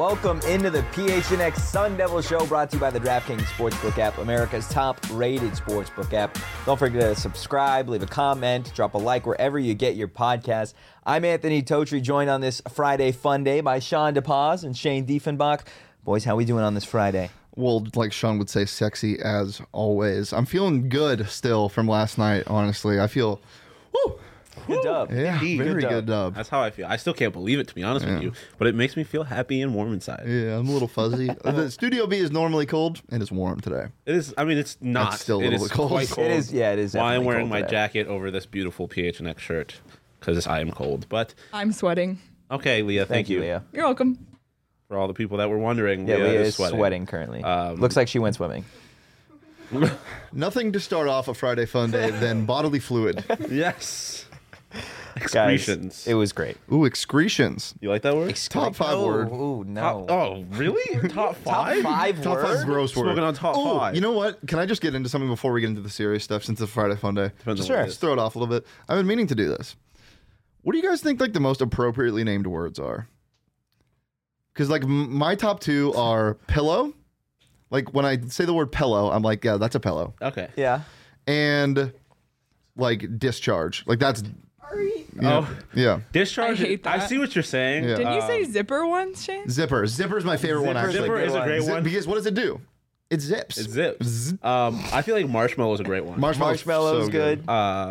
Welcome into the PHNX Sun Devil Show, brought to you by the DraftKings Sportsbook app, America's top-rated sportsbook app. Don't forget to subscribe, leave a comment, drop a like wherever you get your podcasts. I'm Anthony Totri, joined on this Friday fun day by Sean DePaz and Shane Diefenbach. Boys, how we doing on this Friday? Well, like Sean would say, sexy as always. I'm feeling good still from last night, honestly. I feel, woo! Good dub. Yeah, Indeed. very good dub. That's how I feel. I still can't believe it, to be honest with you, but it makes me feel happy and warm inside. Yeah, I'm a little fuzzy. The Studio B is normally cold, and it's warm today. It is. I mean, it's not. It's still a it little is bit cold. quite cold. It is, yeah, it is. Why I'm definitely wearing cold my today. jacket over this beautiful PHNX shirt, because I am cold. But I'm sweating. okay, Leah, thank you, Leah. You're welcome. for all the people that were wondering. Yeah, Leah is sweating currently. Looks like she went swimming. Nothing to start off a Friday fun day than bodily fluid. Yes. Guys, Excretions. it was great. Ooh, excretions. You like that word? Top five word. Ooh, no. Oh, really? Top five? Top five Top word? five gross word. Smoking on top Oh, five. you know what? Can I just get into something before we get into the serious stuff since it's a Friday fun day? Depends on Sure. what it Just is. throw it off a little bit. I've been meaning to do this. What do you guys think like the most appropriately named words are? Because like my top two are pillow. Like when I say the word pillow, I'm like, yeah, that's a pillow. Okay. Yeah. And like discharge. Like that's Oh, yeah. discharge. I hate that. I see what you're saying. Yeah. Didn't you say zipper once, Shane? Zipper. Zipper's my favorite one actually. Zipper is a great one. Because what does it do? It zips. It zips. Zzz. I feel like marshmallow is a great one. Marshmallow's so good.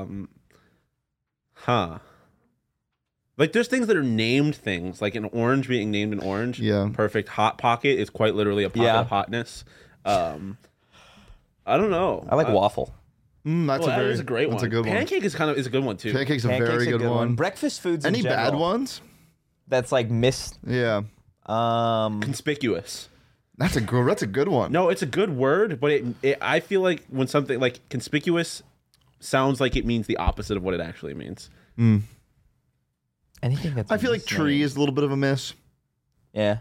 Like there's things that are named things, like an orange being named an orange. Yeah. Perfect hot pocket is quite literally a pocket Yeah. of hotness. I don't know. I like waffle. That's That a very is a great one. That's a good one. Pancake is a good one too. Pancake's a Pancake's very good one. Breakfast foods in Any bad general, ones? that's like missed. Yeah. Conspicuous. That's a good one. No, it's a good word, but I feel like when something like conspicuous sounds like it means the opposite of what it actually means. Anything that's I feel like tree is a little bit of a miss. Yeah.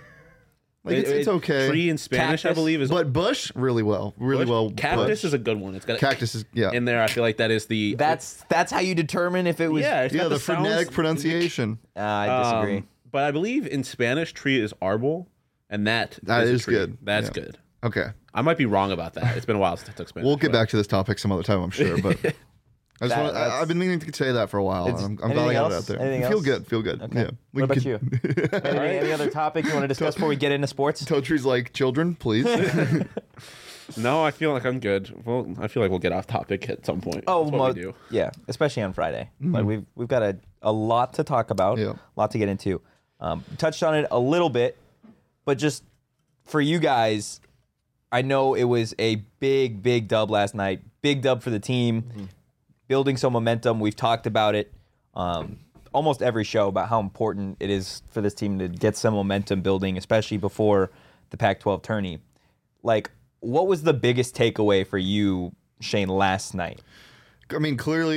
Like it's okay. Tree in Spanish, Cactus. I believe, is But bush, really well. Really bush. well. Cactus bush. is a good one. It's got Cactus is, yeah. in there. I feel like that is the That's how you determine if it was. yeah. It's Yeah, got the sounds- phonetic pronunciation. I disagree. But I believe in Spanish, tree is arbol, and that That a is tree. good. That's Yeah. good. Okay. I might be wrong about that. It's been a while since I took Spanish. We'll get but- back to this topic some other time, I'm sure. But I've been meaning to say that for a while. It's- I'm glad I anything got it else? out there. Anything Feel else? good. Feel good. Okay. Yeah. What about you? Any other topic you want to discuss before we get into sports? Totree's like, children, please. No, I feel like I'm good. Well, I feel like we'll get off topic at some point. Oh, That's what we do. yeah, especially on Friday. Like we've got a lot to talk about, Yeah. a lot to get into. Touched on it a little bit, but just for you guys, I know it was a big dub last night. Big dub for the team, building some momentum. We've talked about it almost every show about how important it is for this team to get some momentum building, especially before the Pac-12 tourney. Like, what was the biggest takeaway for you, Shane, last night? I mean, clearly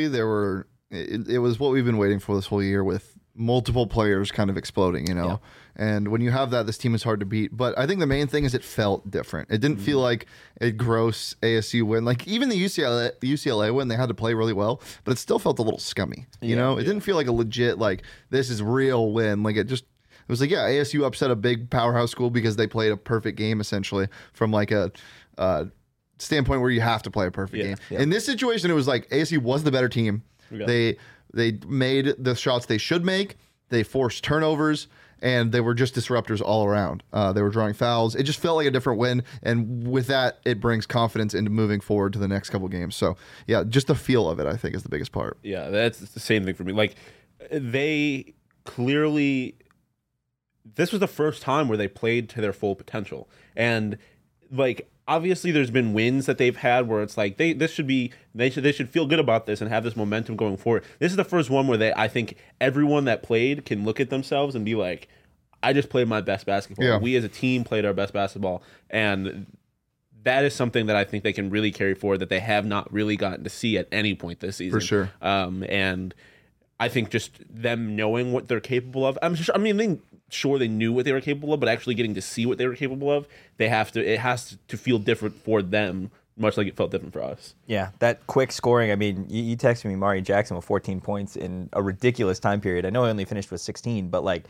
it was what we've been waiting for this whole year with multiple players kind of exploding, you know? And when you have that, this team is hard to beat. But I think the main thing is it felt different. It didn't feel like a gross ASU win. Like even the UCLA win, they had to play really well, but it still felt a little scummy. You know? It didn't feel like a legit, like, this is real win. Like it was like, yeah, ASU upset a big powerhouse school because they played a perfect game, essentially, from like a standpoint where you have to play a perfect game. Yeah. In this situation, it was like ASU was the better team. Yeah. They made the shots they should make. They forced turnovers, and they were just disruptors all around. They were drawing fouls. It just felt like a different win, and with that, it brings confidence into moving forward to the next couple games. So, yeah, just the feel of it, I think, is the biggest part. Yeah, that's the same thing for me. Like, they clearly, this was the first time where they played to their full potential. And, like, obviously there's been wins that they've had where it's like, they should feel good about this and have this momentum going forward. This is the first one where I think everyone that played can look at themselves and be like, I just played my best basketball. Yeah. We as a team played our best basketball. And that is something that I think they can really carry forward that they have not really gotten to see at any point this season. For sure. And I think just them knowing what they're capable of. Sure they knew what they were capable of, but actually getting to see what they were capable of, it has to feel different for them, much like it felt different for us. Yeah, that quick scoring. I mean, you texted me Mari Jackson with 14 points in a ridiculous time period. I know he only finished with 16, but like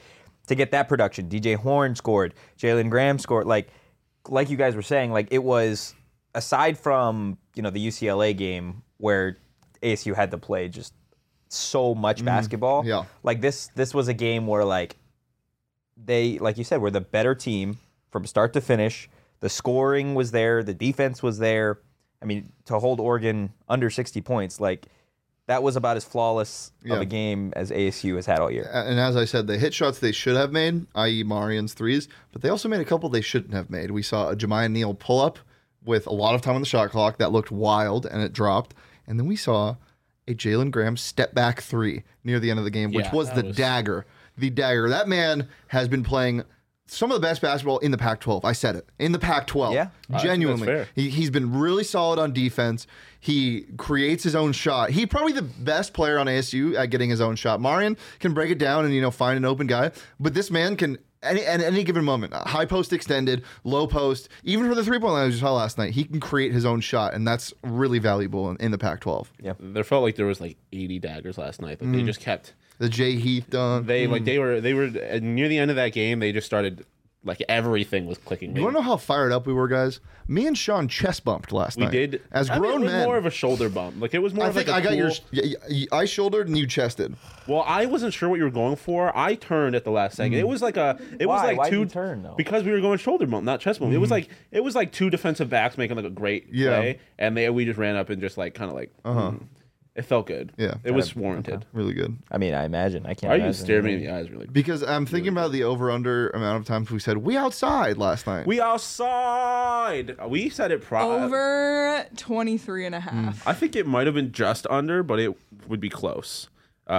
to get that production. DJ Horn scored. Jalen Graham scored. Like you guys were saying, like it was aside from the UCLA game where ASU had to play just so much basketball. Yeah. Like this was a game where like they, like you said, were the better team from start to finish. The scoring was there. The defense was there. I mean, to hold Oregon under 60 points, like that was about as flawless of a game as ASU has had all year. And as I said, they hit shots they should have made, i.e. Marian's threes, but they also made a couple they shouldn't have made. We saw a Jemiah Neal pull up with a lot of time on the shot clock that looked wild and it dropped. And then we saw a Jalen Graham step back three near the end of the game, which was the dagger. The dagger. That man has been playing some of the best basketball in the Pac-12. I said it. In the Pac-12. Yeah. Genuinely. He's been really solid on defense. He creates his own shot. He's probably the best player on ASU at getting his own shot. Marian can break it down and, find an open guy. But this man can, at any given moment, high post extended, low post, even for the three-point line we saw last night, he can create his own shot. And that's really valuable in the Pac-12. Yeah. There felt like there was like 80 daggers last night. Like they just kept... The Jay Heath dunk. They were near the end of that game. They just started like everything was clicking. You want to know how fired up we were, guys? Me and Sean chest bumped last night. We did as grown it was men. more of a shoulder bump. Like it was more. I of think like a I got cool... your. I shouldered and you chested. Well, I wasn't sure what you were going for. I turned at the last second. It was like a. It was like Why two. did you turn, though? Because we were going shoulder bump, not chest bump. It was like two defensive backs making like a great play, and we just ran up and just like kind of like. It felt good. Yeah. It was warranted. Really good. I mean, I imagine. I can't. Why are imagine. you staring me in the eyes, really? Because I'm thinking about the over/under amount of times we said we outside last night. We outside. We said it Over 23 and a half. I think it might have been just under, but it would be close.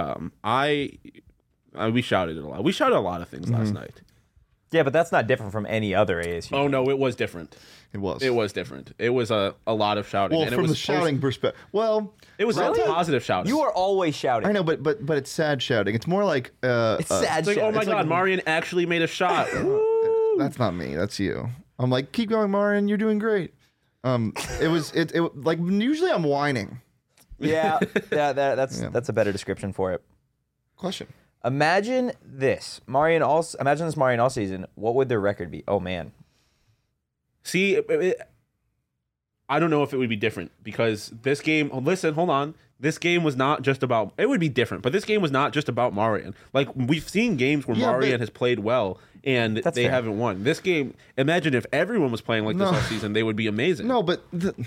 We shouted it a lot. We shouted a lot of things last night. Yeah, but that's not different from any other ASU. Oh no, it was different. It was. It was different. It was a lot of shouting. Well, and from it was the shouting perspective. Well, it was Really? positive shouting. You are always shouting. I know, but it's sad shouting. It's more like It's sad It's like, shit. oh my It's god, like- Marian actually made a shot. that's not me. That's you. I'm like, keep going, Marian. You're doing great. It like usually I'm whining. Yeah, that's a better description for it. Question. Imagine this Marian all season. What would their record be? Oh man. See, I don't know if it would be different because this game. Listen, hold on. This game was not just about. It would be different, but this game was not just about Marian. Like we've seen games where Marian has played well and they fair. haven't won. This game, imagine if everyone was playing like this all season, they would be amazing. No, but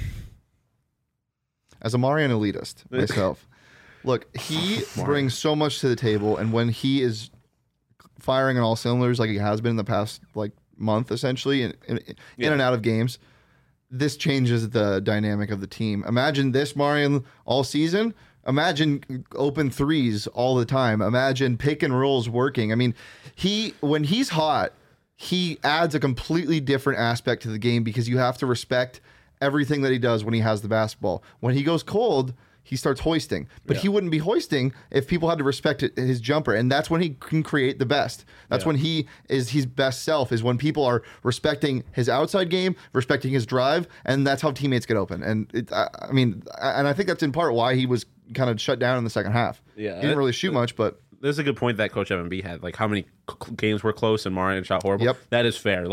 as a Marian elitist myself, look, he brings so much to the table, and when he is firing on all cylinders like he has been in the past like month, essentially in and out of games, this changes the dynamic of the team. Imagine this Marian all season. Imagine open threes all the time. Imagine pick and rolls working. I mean, when he's hot, he adds a completely different aspect to the game because you have to respect everything that he does when he has the basketball. When he goes cold, he starts hoisting. But he wouldn't be hoisting if people had to respect his jumper. And that's when he can create the best. That's when he is his best self, is when people are respecting his outside game, respecting his drive, and that's how teammates get open. And I think that's in part why he was kind of shut down in the second half. Yeah. He didn't really shoot much, but There's a good point that Coach Evan B had. Like how many games were close and Marian shot horrible. Yep. That is fair.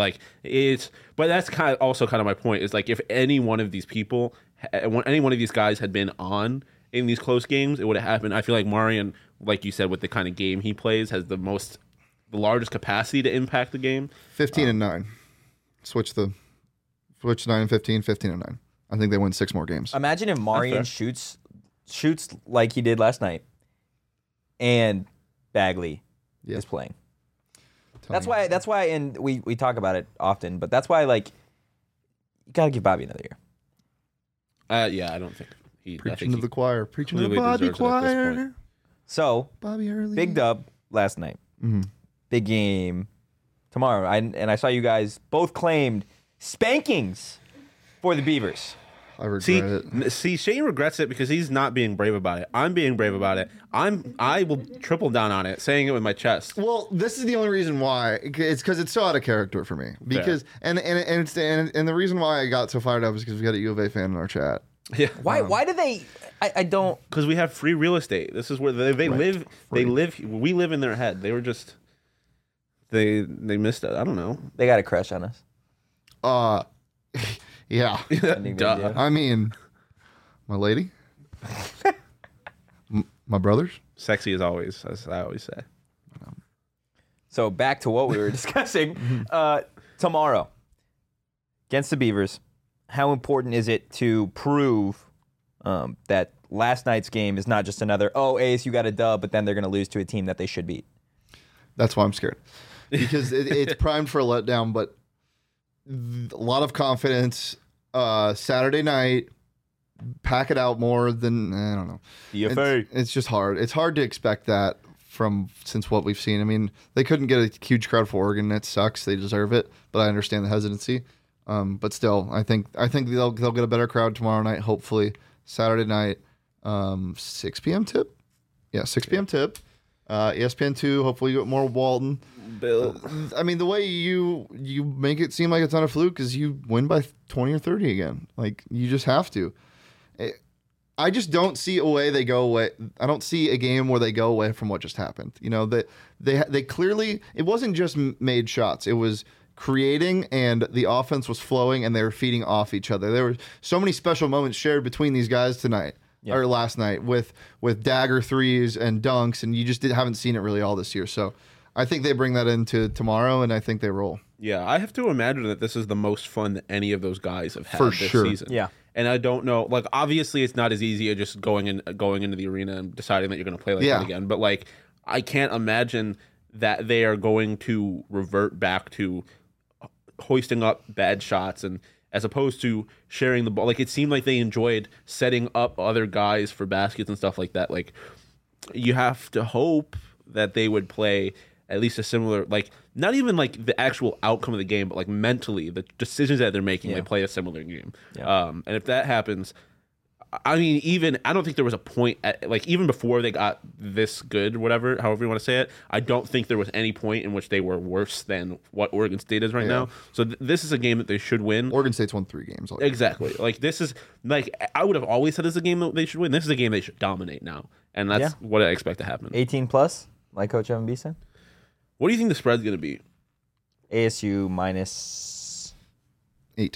But that's kind of my point. Is like if any one of these people, any one of these guys had been on in these close games, it would have happened. I feel like Marian, like you said, with the kind of game he plays, has the largest capacity to impact the game. 15 and 9. Switch 9 and 15, 15 and 9. I think they win 6 more games. Imagine if Marian shoots like he did last night, and Bagley is playing. That's why, and we talk about it often, but that's why you gotta give Bobby another year. Yeah, I don't think he. Preaching to the choir. Preaching to the clearly Bobby deserves it at this choir. point. So Bobby Early. big dub last night. Mm-hmm. Big game tomorrow. I saw you guys both claimed spankings for the Beavers. I regret it. See, Shane regrets it because he's not being brave about it. I'm being brave about it. I will triple down on it, saying it with my chest. Well, this is the only reason why. It's because it's so out of character for me. Because and the reason why I got so fired up is because we got a U of A fan in our chat. Yeah. Why do they? I don't. Because we have free real estate. This is where they live. They live. We live in their head. They were just. they missed it. I don't know. They got a crush on us. Yeah. I think they Duh. do. I mean, my lady, my brothers. Sexy as always, as I always say. So back to what we were discussing. Tomorrow, against the Beavers, how important is it to prove that last night's game is not just another, ASU got a dub, but then they're going to lose to a team that they should beat? That's why I'm scared. Because it's primed for a letdown, but a lot of confidence. Saturday night, pack it out more than, I don't know. DFA. It's just hard. It's hard to expect that since what we've seen. I mean, they couldn't get a huge crowd for Oregon. That sucks. They deserve it, but I understand the hesitancy. But still, I think they'll get a better crowd tomorrow night. Hopefully, Saturday night, 6 p.m. tip. Yeah, 6 p.m. tip. ESPN2. Hopefully, you get more Walton. Bill. I mean, the way you make it seem like it's not a fluke is you win by 20 or 30 again. Like, you just have to. I just don't see a way they go away. I don't see a game where they go away from what just happened. You know, that they clearly, it wasn't just made shots. It was creating, and the offense was flowing, and they were feeding off each other. There were so many special moments shared between these guys tonight. Yeah. Or last night with dagger threes and dunks, and you just haven't seen it really all this year. So I think they bring that into tomorrow, and I think they roll. Yeah, I have to imagine that this is the most fun that any of those guys have had For this sure. season. Yeah. And I don't know, like, obviously it's not as easy as just going into the arena and deciding that you're going to play like that again. But, like, I can't imagine that they are going to revert back to hoisting up bad shots and as opposed to sharing the ball. Like, it seemed like they enjoyed setting up other guys for baskets and stuff like that. Like, you have to hope that they would play at least a similar, like, not even like the actual outcome of the game, but like mentally, the decisions that they're making, they play a similar game. Yeah. And if that happens, I mean, I don't think there was a point at, like, even before they got this good, whatever, however you want to say it, I don't think there was any point in which they were worse than what Oregon State is right now. So this is a game that they should win. Oregon State's won 3 games already. Exactly. Like, this is, like, I would have always said this is a game that they should win. This is a game they should dominate now. And that's what I expect to happen. 18 plus, like Coach Evan B said. What do you think the spread's going to be? ASU minus 8.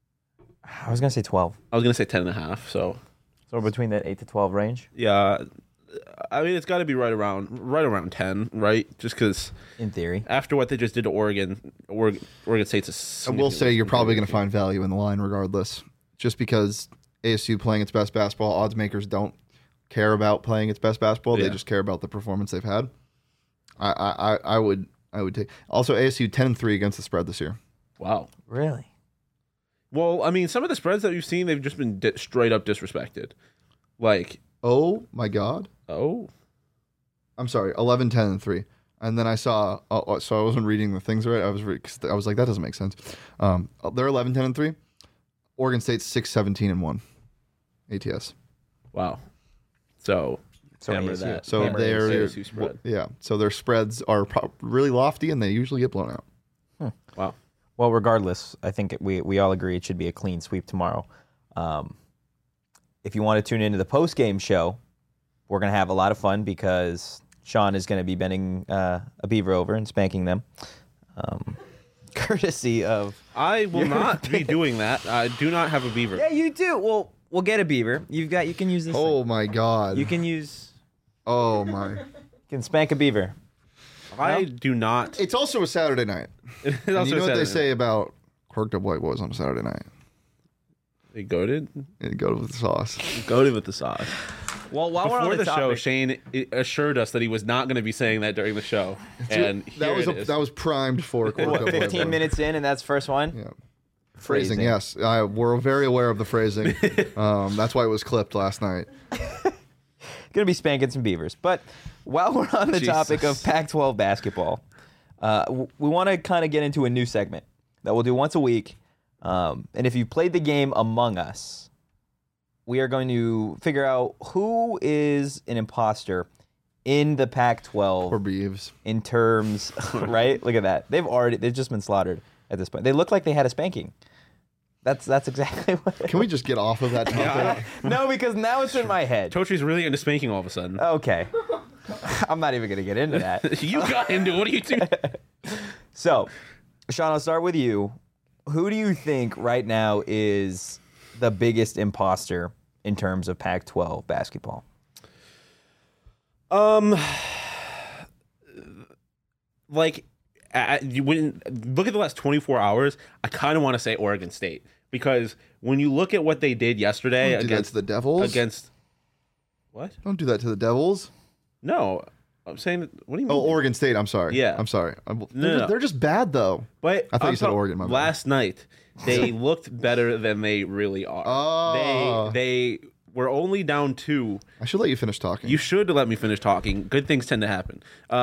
I was going to say 12. I was going to say 10.5, so. So between that 8 to 12 range? Yeah. I mean, it's got to be right around 10, right? Just because In theory. after what they just did to Oregon State's a I will say you're probably going to find value in the line regardless. Just because ASU playing its best basketball, odds makers don't care about playing its best basketball. They just care about the performance they've had. I would take. Also, ASU 10-3 against the spread this year. Wow. Really? Well, I mean, some of the spreads that we've seen, they've just been straight up disrespected. Like, Oh my God. I'm sorry, 11-10-3. And then I saw. So I wasn't reading the things right. I was like, that doesn't make sense. They're 11-10-3. Oregon State's 6-17-1. ATS. wow. So hammer ASU. that. So Hammer they're ASU spread. yeah. So their spreads are really lofty, and they usually get blown out. Wow. Well, regardless, I think we all agree it should be a clean sweep tomorrow. If you want to tune into the post-game show, we're going to have a lot of fun because Sean is going to be bending a Beaver over and spanking them. Courtesy of... I will not be doing that. I do not have a beaver. Yeah, you do. Well, we'll get a Beaver. You can use this Oh thing. my God. You can use... Oh my. You can spank a Beaver. I do not. It's also a Saturday night. It's And also you know what they Saturday. say about Quirked Up White Boys on a Saturday night? They goated? It go with the sauce. Goated with the sauce. Well, while we're Before on the show, topic, Shane assured us that he was not going to be saying that during the show. And that here it is. was primed for Quirked Up White 15 Boys. minutes in, and that's first one? Yeah. Phrasing, yes. We're very aware of the phrasing. That's why it was clipped last night. Going to be spanking some Beavers. But while we're on the topic of Pac-12 basketball, we want to kind of get into a new segment that we'll do once a week. And if you played the game Among Us, we are going to figure out who is an imposter in the Pac-12 Or Beeves. in terms, right? Look at that. They've just been slaughtered at this point. They look like they had a spanking. That's exactly what. Can we just get off of that topic? No, because now it's in my head. Tochi's really into spanking all of a sudden. Okay. I'm not even going to get into that. You got into it. What are you doing? So, Sean, I'll start with you. Who do you think right now is the biggest imposter in terms of Pac-12 basketball? Like, when look at the last 24 hours, I kind of want to say Oregon State because when you look at what they did yesterday Don't do that against to the Devils. against what? Don't do that to the Devils. No, I'm saying what do you mean? Oh, Oregon State. I'm sorry. Yeah. I'm sorry. No. They're just bad though. But I thought I'm you said talking- Oregon, my bad. Last night, they looked better than they really are. Oh. They were only down 2. I should let you finish talking. You should let me finish talking. Good things tend to happen.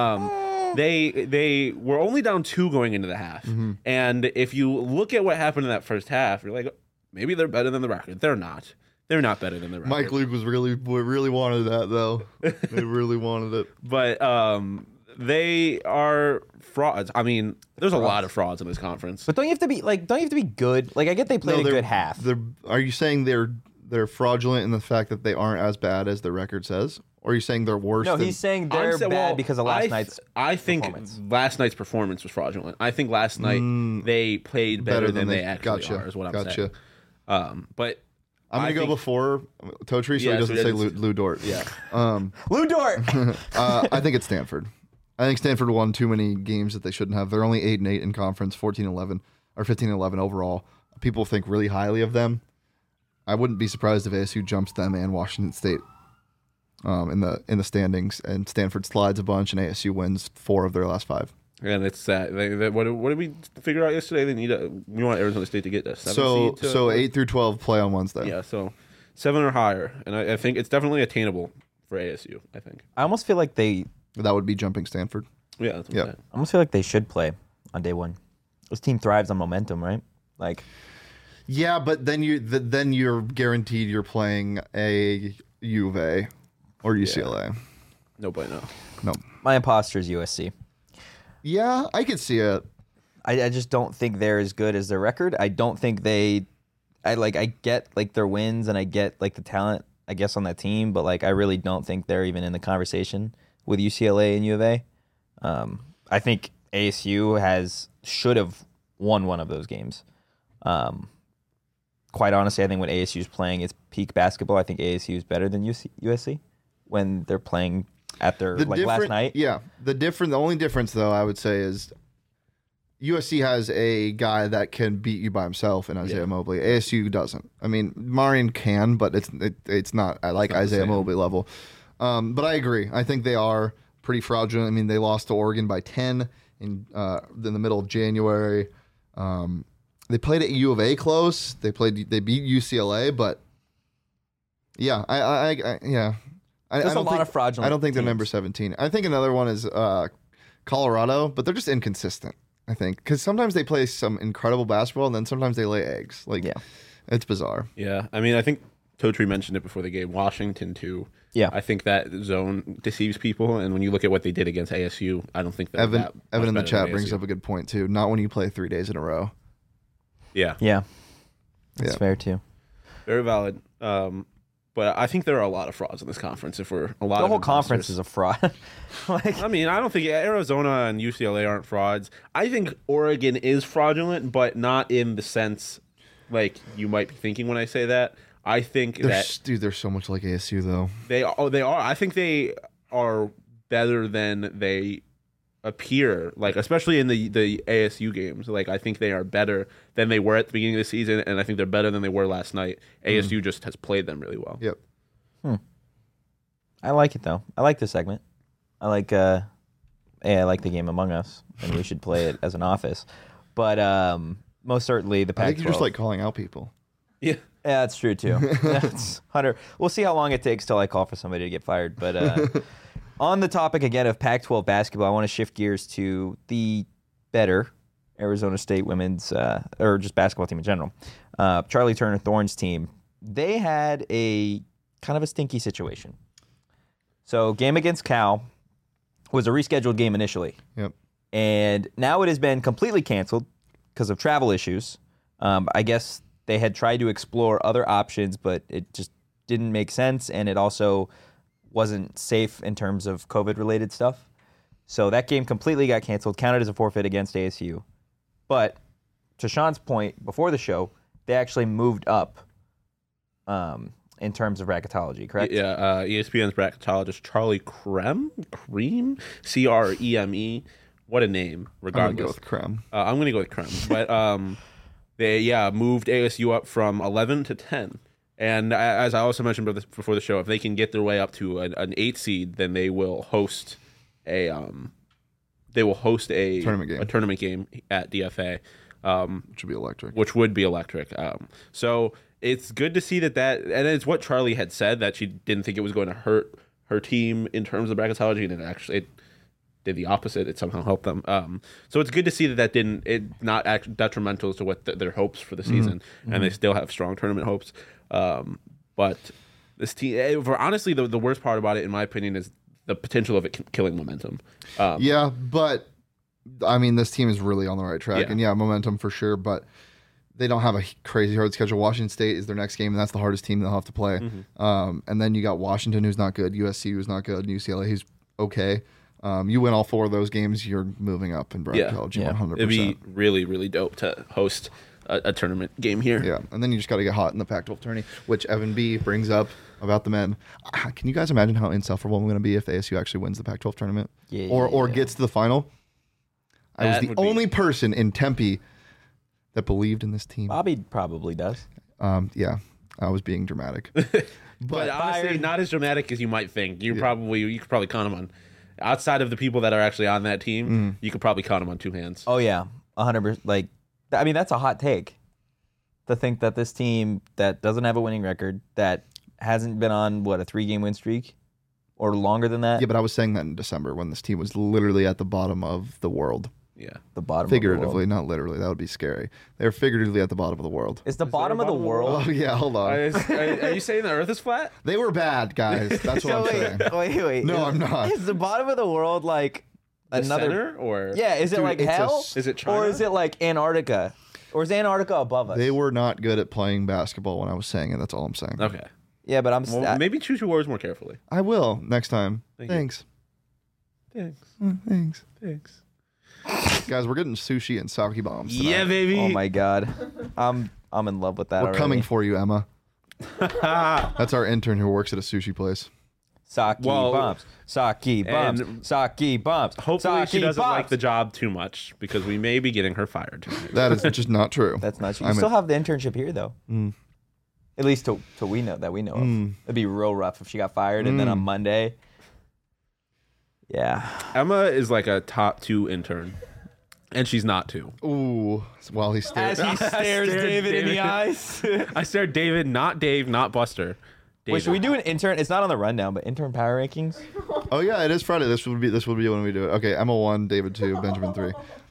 They were only down 2 going into the half, and if you look at what happened in that first half, you're like, maybe they're better than the record. They're not. They're not better than the record. Mike Luke was really wanted that though. They really wanted it. But they are frauds. I mean, there's a lot of frauds in this conference. But don't you have to be good? Like I get they played a good half. Are you saying they're fraudulent in the fact that they aren't as bad as the record says? Or are you saying they're worse? No, than, he's saying they're bad because of last night's I think performance. last night's performance was fraudulent. I think last night they played better than they actually gotcha, are. Is what I'm gotcha. saying. But I'm gonna go before Totri, so Yeah, he doesn't so say he doesn't- Lou Dort. yeah, Lou Dort. I think it's Stanford. I think Stanford won too many games that they shouldn't have. They're only 8-8 in conference, 14-11 or 15-11 overall. People think really highly of them. I wouldn't be surprised if ASU jumps them and Washington State in the standings, and Stanford slides a bunch, and ASU wins 4 of their last 5. and it's sad. What did we figure out yesterday? They need we want Arizona State to get a 7 seed. So 8 through 12 play on Wednesday. Yeah, so 7 or higher, and I think it's definitely attainable for ASU. I think. I almost feel like they That would be jumping Stanford. Yeah, that's what Yeah. I'm saying. I almost feel like they should play on day one. This team thrives on momentum, right? Like Yeah, but then you're guaranteed you're playing a U of A or UCLA. No bueno. No. my imposter is USC. Yeah, I could see it. I just don't think they're as good as their record. I don't think I get like their wins and I get like the talent I guess on that team, but like I really don't think they're even in the conversation with UCLA and U of A. I think ASU should have won one of those games. Quite honestly, I think when ASU is playing its peak basketball, I think ASU is better than USC when they're playing at their last night. Yeah, the only difference though I would say is USC has a guy that can beat you by himself in Isaiah Mobley. ASU doesn't. I mean, Marion can, but it's not at like Isaiah Mobley level. But I agree. I think they are pretty fraudulent. I mean, they lost to Oregon by 10 in the middle of January. They played at U of A close. They beat UCLA, but yeah, There's a lot of fraudulent I don't think they're teams. number 17. I think another one is Colorado, but they're just inconsistent. I think because sometimes they play some incredible basketball, and then sometimes they lay eggs. Like, it's bizarre. Yeah, I mean, I think Totri mentioned it before the game. Washington too. Yeah. I think that zone deceives people, and when you look at what they did against ASU, I don't think that Evan that in the much chat better than brings ASU. up a good point too. Not when you play 3 days in a row. Yeah, Yeah. That's Yeah. fair too. very valid. But I think there are a lot of frauds in this conference. If we're a lot, The of whole conference imposters. is a fraud. Like I mean, I don't think Arizona and UCLA aren't frauds. I think Oregon is fraudulent, but not in the sense like you might be thinking when I say that. I think that They're so much like ASU though. they are. I think they are better than they appear. Like especially in the ASU games. Like I think they are better than they were at the beginning of the season, and I think they're better than they were last night. ASU just has played them really well. Yep. I like it though. I like this segment. I like I like the game Among Us, and we should play it as an office. But most certainly the I Pac-12. think you just like calling out people. Yeah. Yeah, that's true too. That's 100. We'll see how long it takes till I call for somebody to get fired. But on the topic again of Pac-12 basketball, I want to shift gears to the better Arizona State women's or just basketball team in general. Charlie Turner Thorns team. They had a kind of a stinky situation. So game against Cal was a rescheduled game initially. Yep. And now it has been completely canceled because of travel issues. I guess they had tried to explore other options, but it just didn't make sense, and it also wasn't safe in terms of COVID-related stuff. So that game completely got canceled, counted as a forfeit against ASU. But to Sean's point before the show, they actually moved up in terms of bracketology, correct? Yeah, ESPN's bracketologist Charlie Cream, Creme. What a name, regardless. I'm going to go with Creme. I'm going to go with Creme. But they moved ASU up from 11 to 10. And as I also mentioned before the show, if they can get their way up to an 8 seed, then they will host a tournament game at DFA, which would be electric. So it's good to see that, and it's what Charlie had said, that she didn't think it was going to hurt her team in terms of bracketology, and it did the opposite. It somehow helped them. So it's good to see that not detrimental to what their hopes for the season, and they still have strong tournament hopes. But this team, honestly, the worst part about it, in my opinion, is the potential of it killing momentum. Yeah, but I mean, this team is really on the right track, and momentum for sure. But they don't have a crazy hard schedule. Washington State is their next game, and that's the hardest team they'll have to play. And then you got Washington, who's not good, USC, who's not good, and UCLA, who's okay. You win all 4 of those games, you're moving up in bracketology 100%. It'd be really, really dope to host a tournament game here. Yeah, and then you just got to get hot in the Pac-12 tourney, which Evan B. brings up about the men. Can you guys imagine how insufferable I'm going to be if ASU actually wins the Pac-12 tournament or gets to the final? I was the only person in Tempe that believed in this team. Bobby probably does. Yeah, I was being dramatic. But honestly, not as dramatic as you might think. You could probably count them on. Outside of the people that are actually on that team, you could probably count them on 2 hands. Oh yeah, 100%. Like, I mean, that's a hot take. To think that this team that doesn't have a winning record, that hasn't been on a 3-game win streak, or longer than that. Yeah, but I was saying that in December when this team was literally at the bottom of the world. Yeah, the bottom. Figuratively, of the world. not literally. That would be scary. They're figuratively at the bottom of the world. Is the bottom of the world? Oh yeah, hold on. Are you saying the Earth is flat? They were bad, guys. That's what I'm saying. Wait. No, I'm not. Is the bottom of the world like another center, or is it like hell? Is it China? Or is it like Antarctica? Or is Antarctica above us? They were not good at playing basketball when I was saying it. That's all I'm saying. Okay. Yeah, but maybe choose your words more carefully. I will next time. Thanks. Thanks. Guys, we're getting sushi and sake bombs tonight. Yeah, baby. Oh my god, I'm in love with that. We're already. coming for you, Emma. That's our intern who works at a sushi place. Sake bombs. Sake bombs. Sake bombs. Hopefully she doesn't bombs. like the job too much, because we may be getting her fired tonight. That is just not true. That's not true. You still have the internship here, though. At least till we know of. It'd be real rough if she got fired and then on Monday. Yeah. Emma is like a top 2 intern, and she's not 2. Ooh. While he stares. As he stares David in the eyes. I stared David, not Dave, not Buster. David. Wait, should we do an intern? It's not on the rundown, but intern power rankings. Oh yeah, it is Friday. This would be when we do it. Okay, Emma 1, David 2, Benjamin 3.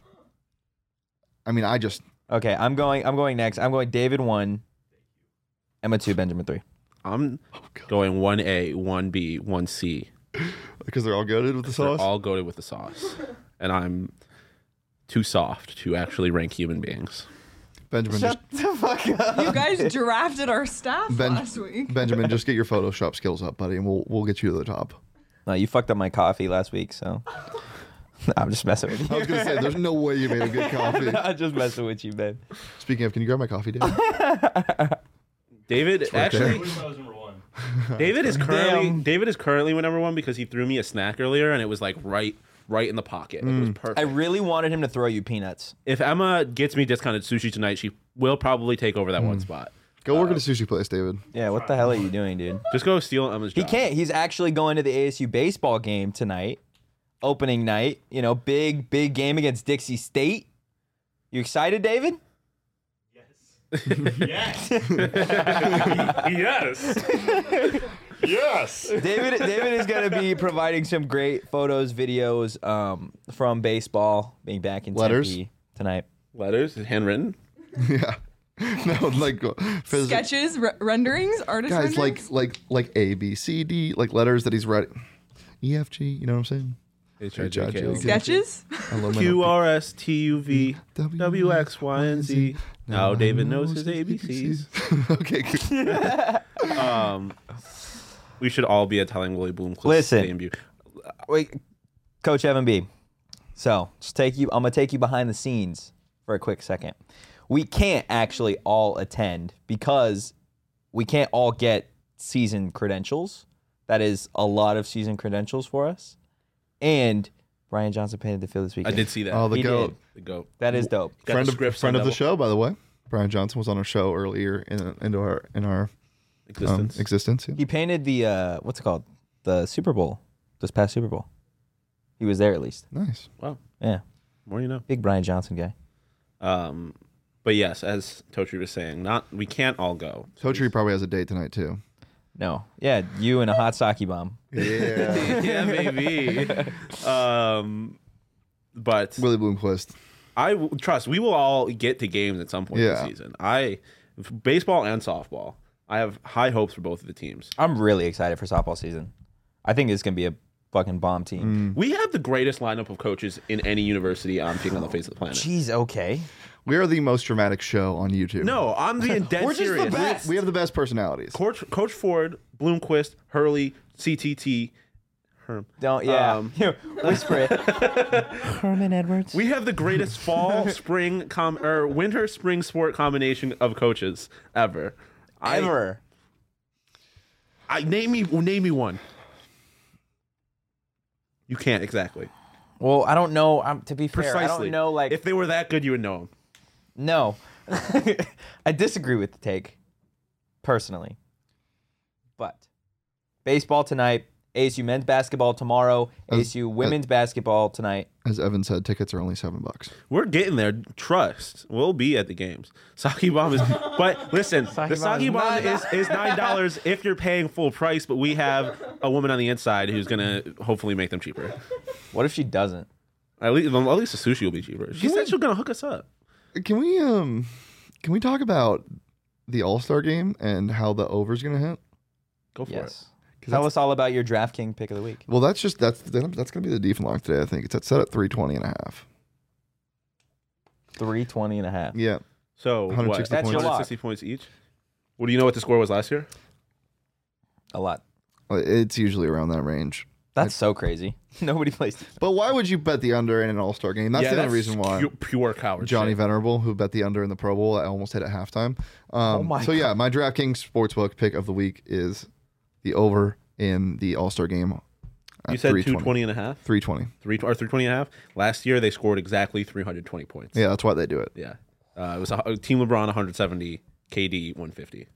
I mean, Okay, I'm going next. I'm going David 1, Emma 2, Benjamin 3. I'm going 1A, 1B, 1C. Because they're all goated with the sauce? They're all goated with the sauce. And I'm too soft to actually rank human beings. Benjamin, Shut the fuck up. You guys drafted our staff last week. Benjamin, just get your Photoshop skills up, buddy, and we'll get you to the top. No, you fucked up my coffee last week, so I'm just messing with you. I was going to say, there's no way you made a good coffee. I'm just messing with you, man. Speaking of, can you grab my coffee, David? David, actually, David is currently number 1 because he threw me a snack earlier, and it was like right in the pocket. It was perfect. I really wanted him to throw you peanuts. If Emma gets me discounted sushi tonight, she will probably take over that one spot. Go work at a sushi place, David. Yeah, what the hell are you doing, dude? Just go steal Emma's job. He can't. He's actually going to the ASU baseball game tonight, opening night. You know, big game against Dixie State. You excited, David? Yes. Yes. David is going to be providing some great photos, videos from baseball, being back in Letters? Tempe tonight. Letters, handwritten. Yeah. No, like Sketches, renderings, artist guys, renderings. like A, B, C, D, like letters that he's writing. E, F, G. You know what I'm saying? HIJK. Sketches. Q, R, S, T, U, V, W, X, Y, and Z. Now David knows his ABCs. Okay, good. We should all be at Telling Willie Bloom. Listen. debut. Wait, Coach Evan B. So I'm gonna take you behind the scenes for a quick second. We can't actually all attend because we can't all get season credentials. That is a lot of season credentials for us. And Brian Johnson painted the field this I weekend. did see that. Oh, the He goat. did. The goat. That is dope. Got Friend the of scripts friend on of the double show, by the way. Brian Johnson was on our show earlier in our existence. existence. Yeah. He painted the what's it called? The Super Bowl. This past Super Bowl. He was there at least. Nice. Wow. Yeah. More you know. Big Brian Johnson guy. But yes, as Totri was saying, we can't all go. Totri probably has a date tonight too. No. Yeah, you and a hot sake bomb. Yeah. Yeah, maybe. But Willie Bloomquist. trust we will all get to games at some point this season. Baseball and softball. I have high hopes for both of the teams. I'm really excited for softball season. I think it's gonna be a fucking bomb team. We have the greatest lineup of coaches in any university on the face of the planet. Jeez, okay. We are the most dramatic show on YouTube. No, I'm being dead We're just the serious. best. We have the best personalities. Coach Ford, Bloomquist, Hurley, CTT, Herm. Don't whisper it. Herman Edwards. We have the greatest fall, spring, winter, spring sport combination of coaches ever. Ever. Name me one. You can't exactly. Well, I don't know. To be fair, Precisely. I don't know. Like, if they were that good, you would know them. no, I disagree with the take, personally. But baseball tonight, ASU men's basketball tomorrow, ASU women's basketball tonight. As Evan said, tickets are only $7. We're getting there. Trust. We'll be at the games. Sake bomb is. But listen, the sake bomb is $9 if you're paying full price. But we have a woman on the inside who's gonna hopefully make them cheaper. What if she doesn't? At least the sushi will be cheaper. She said she's gonna hook us up. Can we talk about the All-Star game and how the over's going to hit? Go for it. Yes. Tell us all about your DraftKings pick of the week. Well, that's going to be the default line today. I think it's set at 320.5. 320.5. Yeah. So 160 what? points. That's your lock. 160 points each. What do you know what the score was last year? A lot. It's usually around that range. That's so crazy. Nobody plays. But why would you bet the under in an All-Star game? That's the only reason why. Pure coward. Johnny shit. Venerable, who bet the under in the Pro Bowl, I almost hit at halftime. my so yeah, my DraftKings Sportsbook pick of the week is the over in the All-Star game. You said 220 and a half? 320. 320 and a half? Last year they scored exactly 320 points. Yeah, that's why they do it. Yeah. It was Team LeBron 170, KD 150.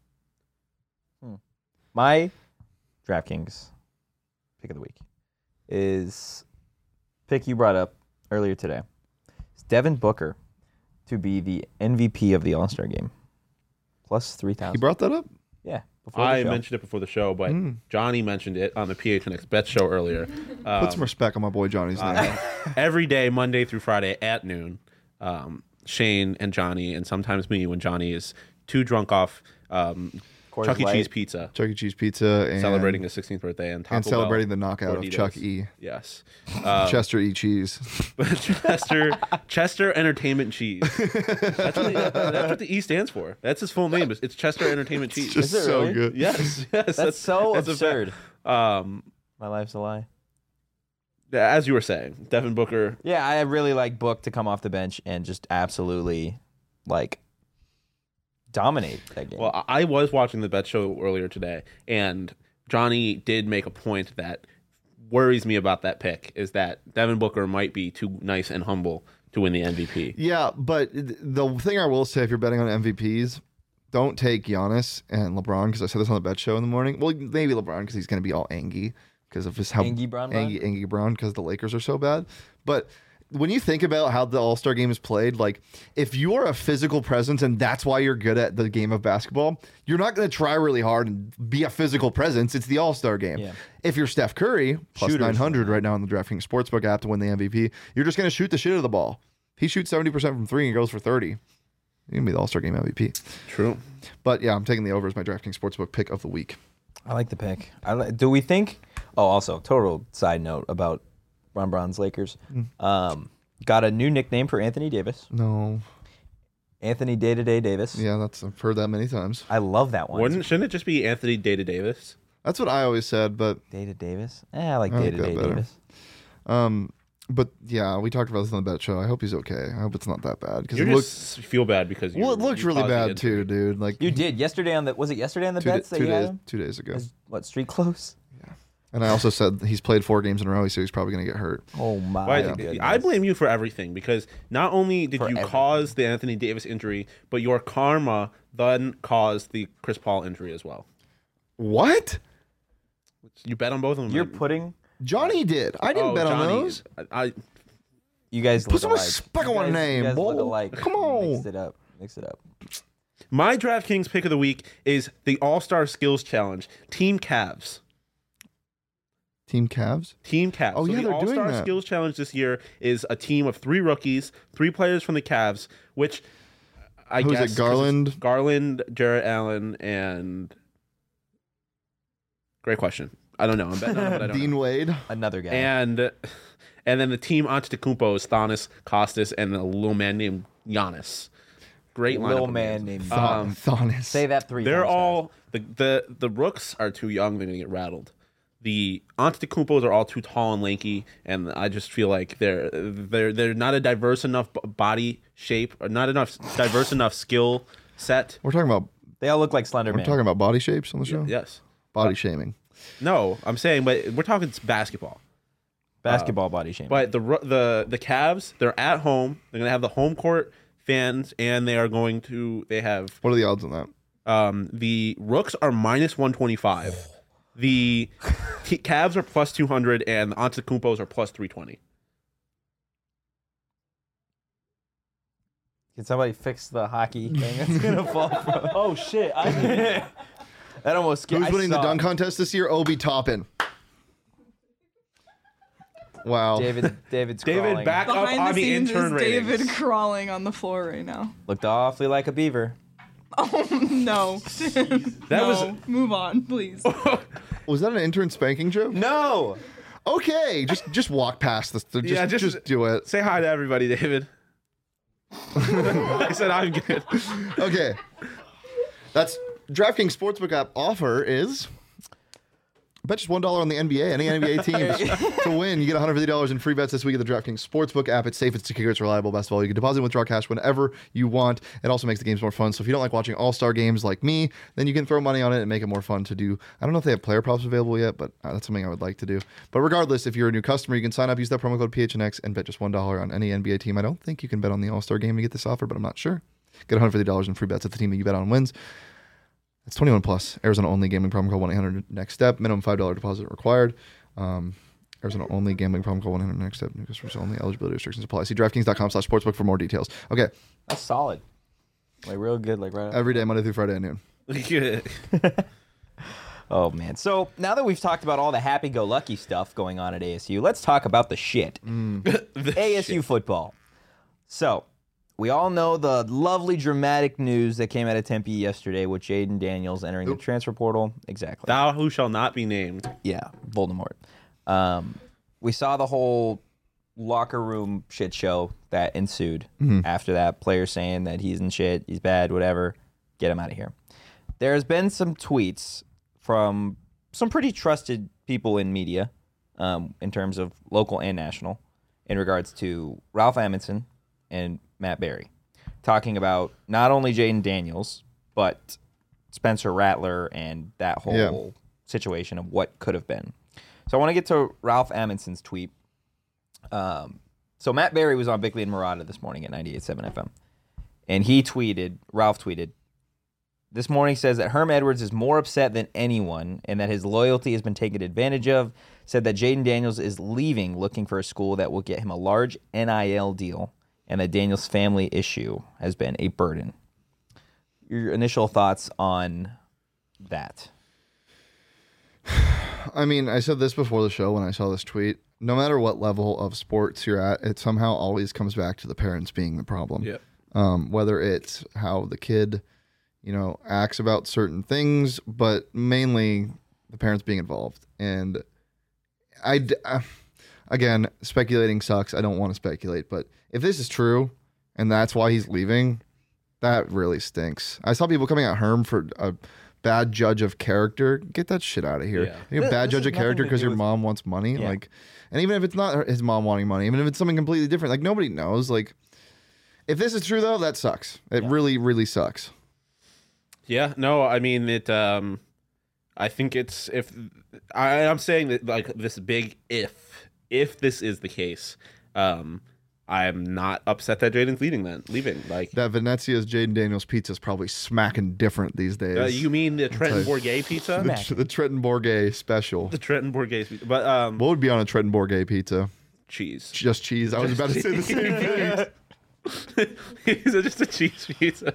My DraftKings pick of the week is pick you brought up earlier today. It's Devin Booker to be the MVP of the All-Star game. Plus 3,000. You brought that up? Yeah. Before the I show. mentioned it before the show, but Johnny mentioned it on the PHNX Bet show earlier. Put some respect on my boy Johnny's name. Every day, Monday through Friday at noon, Shane and Johnny, and sometimes me when Johnny is too drunk off Chuck E. Light. Cheese pizza, Chuck E. Cheese pizza and celebrating his 16th birthday, and Taco and celebrating Bell, the knockout of Gorditos. Chuck E. Yes. Chester E. Cheese. Chester Entertainment Cheese. That's what the E stands for. That's his full name. It's Chester Entertainment Cheese. Just Is it so really? good. Yes. That's so a fact. absurd. My life's a lie. As you were saying, Devin Booker. Yeah, I really like Book to come off the bench and just absolutely like dominate that game. Well, I was watching the bet show earlier today, and Johnny did make a point that worries me about that pick is that Devin Booker might be too nice and humble to win the MVP. Yeah, but the thing I will say, if you're betting on MVPs, don't take Giannis and LeBron, because I said this on the bet show in the morning. Well, maybe LeBron, because he's going to be all angry because of his Angie Brown? Angie Brown, because the Lakers are so bad. But when you think about how the All-Star game is played, like if you are a physical presence and that's why you're good at the game of basketball, you're not going to try really hard and be a physical presence. It's the All-Star game. Yeah. If you're Steph Curry, plus Shooters. 900 right now on the DraftKings Sportsbook app to win the MVP, you're just going to shoot the shit out of the ball. He shoots 70% from three and goes for 30. You're going to be the All-Star game MVP. True. But yeah, I'm taking the over as my DraftKings Sportsbook pick of the week. I like the pick. Do we think? Oh, also, total side note about Ron Brown's Lakers. Got a new nickname for Anthony Davis. No. Anthony Day-to-Day Davis. Yeah, I've heard that many times. I love that one. Shouldn't it just be Anthony Data Davis? That's what I always said, but Day-to Davis? I like I like Day-to-Day that better. Davis. But yeah, we talked about this on the bet show. I hope he's okay. I hope it's not that bad because You it just feel bad because well, it looked really caused the bad injury. too, dude. Like You did yesterday on the bets that you had him? 2 days ago. What, street close? And I also said he's played 4 games in a row, so he's probably going to get hurt. Oh my Well, goodness. I blame you for everything because not only did you everything. cause the Anthony Davis injury, but your karma then caused the Chris Paul injury as well. What? You bet on both of them. You're man. putting Johnny did. I didn't bet on Johnny, those. you guys Put look some alike. respect You on guys- name, you guys look boy. alike. Come on. Mix it up. Mix it up. My DraftKings pick of the week is the All-Star Skills Challenge, Team Cavs. Team Cavs? Team Cavs. Oh, so yeah, the they're doing All-Star that. Skills Challenge this year is a team of 3 rookies, 3 players from the Cavs, which I Who's it, guess 'cause it's Garland? Garland, Jarrett Allen, and great question. I don't know. I'm betting on it, but I don't Dean know. Wade? Another guy. And then the team Antetokounmpo is Thonis, Costas, and a little man named Giannis. Great lineup. Little of man names. named Thonis. Say that 3 They're times all the rooks are too young. They're gonna get rattled. The Antetokounmpos are all too tall and lanky, and I just feel like they're not a diverse enough body shape, or not enough diverse enough skill set. We're talking about fast. They all look like Slender Man. body shapes on the show? Yes. Body shaming. No, I'm saying, but we're talking basketball. Basketball body shaming. But the Cavs, they're at home. They're gonna have the home court fans, and they have What are the odds on that? the Rooks are minus 125. The Cavs are plus 200, and the Antetokounmpos are plus 320. Can somebody fix the hockey thing that's gonna fall from? Oh shit! That almost scared. Who's winning the dunk contest this year? Obi Toppin. Wow. David's crawling. back up Behind on the the scenes intern is David ratings. crawling on the floor right now. Looked awfully like a beaver. No. That was- Move on, please. Was that an intern spanking joke? No. Okay, just walk past this. Just do it. Say hi to everybody, David. I said I'm good. Okay. That's DraftKings Sportsbook app offer is bet just $1 on the NBA. Any NBA teams to win. You get $150 in free bets this week at the DraftKings Sportsbook app. It's safe, it's secure, it's reliable. Best of all, you can deposit and withdraw cash whenever you want. It also makes the games more fun. So if you don't like watching all-star games like me, then you can throw money on it and make it more fun to do. I don't know if they have player props available yet, but that's something I would like to do. But regardless, if you're a new customer, you can sign up, use that promo code PHNX, and bet just $1 on any NBA team. I don't think you can bet on the all-star game to get this offer, but I'm not sure. Get $150 in free bets if the team that you bet on wins. It's 21 plus. Arizona only. Gambling problem call 1-800-NEXT STEP. Minimum $5 deposit required. Arizona only. Gambling problem call 1-800-NEXT STEP. New customers only. Eligibility restrictions apply. See DraftKings.com/sportsbook for more details. Okay. That's solid. Like real good. Like right. Every day, Monday through Friday at noon. Oh man. So now that we've talked about all the happy-go-lucky stuff going on at ASU, let's talk about the shit. ASU football. So we all know the lovely dramatic news that came out of Tempe yesterday with Jaden Daniels entering the transfer portal. Exactly. Thou who shall not be named. Yeah, Voldemort. We saw the whole locker room shit show that ensued after that. Players saying that he's in shit, he's bad, whatever. Get him out of here. There's been some tweets from some pretty trusted people in media, in terms of local and national, in regards to Ralph Amundsen and Matt Berry, talking about not only Jaden Daniels, but Spencer Rattler and that whole situation of what could have been. So I want to get to Ralph Amundsen's tweet. So Matt Berry was on Bickley and Murata this morning at 98.7 FM. And Ralph tweeted, this morning says that Herm Edwards is more upset than anyone and that his loyalty has been taken advantage of. Said that Jaden Daniels is leaving looking for a school that will get him a large NIL deal and that Daniels' family issue has been a burden. Your initial thoughts on that? I mean, I said this before the show when I saw this tweet. No matter what level of sports you're at, it somehow always comes back to the parents being the problem. Yeah. Whether it's how the kid, acts about certain things, but mainly the parents being involved. And again, speculating sucks. I don't want to speculate, but if this is true and that's why he's leaving, that really stinks. I saw people coming at Herm for bad judge of character, get that shit out of here. Yeah. You're a bad This judge has of character nothing to because do your with- mom wants money. Yeah. Like, and even if it's not his mom wanting money, even if it's something completely different, like nobody knows. Like, if this is true though, that sucks. It really, really sucks. Yeah, no, I mean it. I think it's I'm saying that like this big if this is the case, I'm not upset that Jaden's leaving. Like That Venezia's Jaden Daniels pizza is probably smacking different these days. you mean the Trenton tell you. Bourget pizza? the Trenton Bourget special. The Trenton Bourget pizza, but What would be on a Trenton Bourget pizza? cheese. Just cheese. I was about to say the same thing. Is it just a cheese pizza?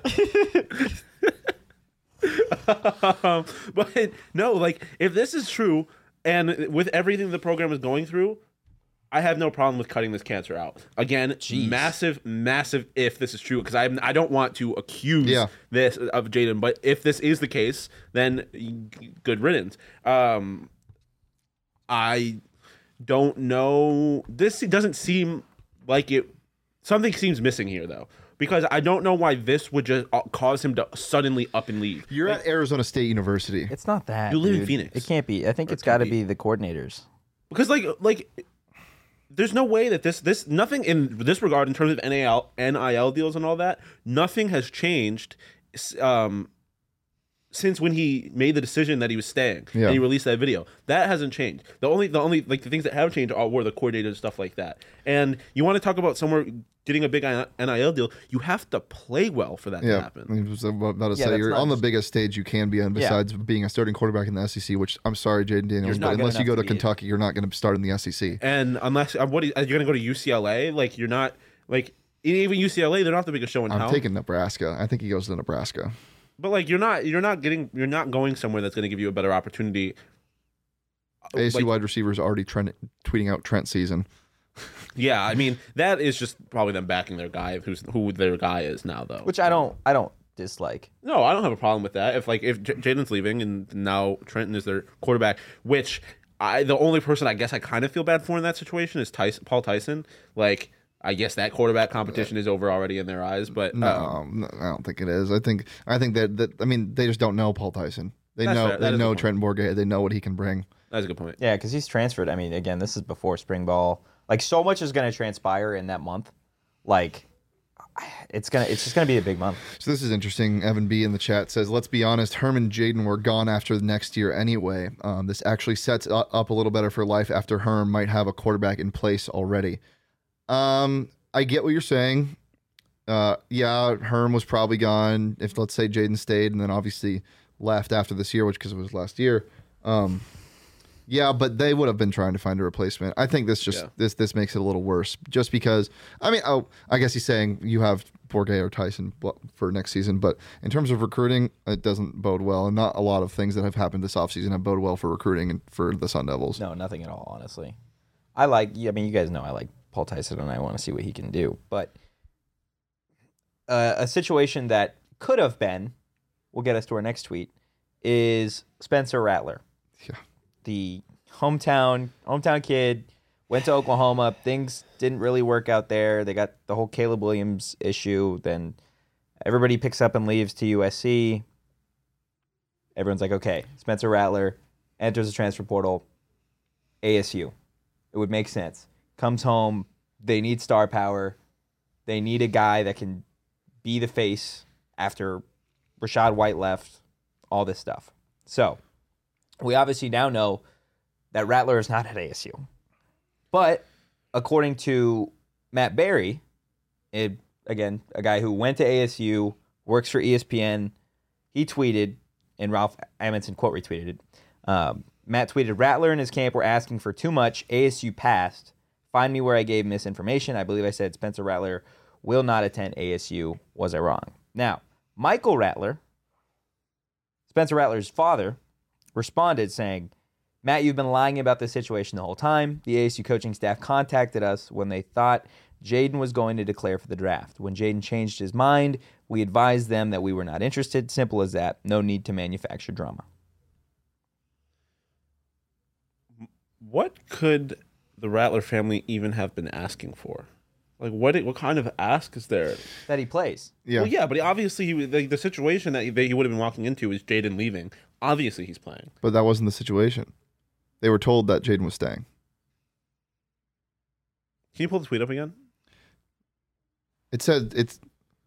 But no, like if this is true, and with everything the program is going through, I have no problem with cutting this cancer out. Again, massive if this is true, because I don't want to accuse this of Jaden, but if this is the case, then good riddance. I don't know. This doesn't seem like it. Something seems missing here, though, because I don't know why this would just cause him to suddenly up and leave. You're at Arizona State University. It's not that. You live in dude. Phoenix. It can't be. I think it's got to be the coordinators. Because like there's no way that this nothing in this regard in terms of NIL deals and all that, nothing has changed since when he made the decision that he was staying and he released that video. That hasn't changed. The only like the things that have changed were the coordinators and stuff like that. And you want to talk about somewhere getting a big NIL deal, you have to play well for that to happen. I was about to say that's you're not on the just- biggest stage you can be on besides being a starting quarterback in the SEC, which I'm sorry, Jaden Daniels, not but good unless you enough go to to be- Kentucky, you're not going to start in the E SEC. And unless you're going to go to UCLA, like you're not like even UCLA, they're not the biggest show in I'm town. taking Nebraska. I think he goes to Nebraska. But like you're not going somewhere that's going to give you a better opportunity. ASU Like, wide receivers already tweeting out Trent season. yeah, I mean that is just probably them backing their guy, who their guy is now, though. Which I don't dislike. No, I don't have a problem with that. If Jaden's leaving and now Trenton is their quarterback, which the only person I guess I kind of feel bad for in that situation is Paul Tyson. Like I guess that quarterback competition is over already in their eyes, but No, I don't think it is. I think that I mean they just don't know Paul Tyson. They That's know fair. That they is a know good point. Trent Bourget. They know what he can bring. that's a good point. Yeah, because he's transferred. I mean, again, this is before spring ball. Like, so much is going to transpire in that month. Like, it's just gonna be a big month. So this is interesting. Evan B in the chat says, "Let's be honest. Herm and Jaden were gone after the next year anyway. This actually sets up a little better for life after Herm might have a quarterback in place already." I get what you're saying. Yeah, Herm was probably gone if let's say Jaden stayed and then obviously left after this year, which because it was last year. Yeah, but they would have been trying to find a replacement. I think this just this makes it a little worse, just because. I mean, I guess he's saying you have Bourget or Tyson for next season, but in terms of recruiting, it doesn't bode well, and not a lot of things that have happened this offseason have bode well for recruiting and for the Sun Devils. No, nothing at all, honestly. I mean, you guys know I like Paul Tyson, and I want to see what he can do. But a situation that could have been, will get us to our next tweet, is Spencer Rattler. Yeah. The hometown kid, went to Oklahoma. Things didn't really work out there. They got the whole Caleb Williams issue. Then everybody picks up and leaves to USC. Everyone's like, okay, Spencer Rattler enters the transfer portal, ASU. It would make sense. Comes home. They need star power. They need a guy that can be the face after Rashad White left, all this stuff. So we obviously now know that Rattler is not at ASU. But according to Matt Berry, again, a guy who went to ASU, works for ESPN, he tweeted, and Ralph Amundsen quote retweeted it. Matt tweeted, "Rattler and his camp were asking for too much. ASU passed. Find me where I gave misinformation. I believe I said Spencer Rattler will not attend ASU. Was I wrong?" Now, Michael Rattler, Spencer Rattler's father, responded saying, "Matt, you've been lying about this situation the whole time. The ASU coaching staff contacted us when they thought Jaden was going to declare for the draft. When Jaden changed his mind, we advised them that we were not interested. Simple as that. No need to manufacture drama." What could the Rattler family even have been asking for? Like what kind of ask is there? that he plays. Yeah. Well, yeah, but obviously the situation that he would have been walking into is Jaden leaving. Obviously, he's playing. But that wasn't the situation. They were told that Jaden was staying. Can you pull the tweet up again? It said it's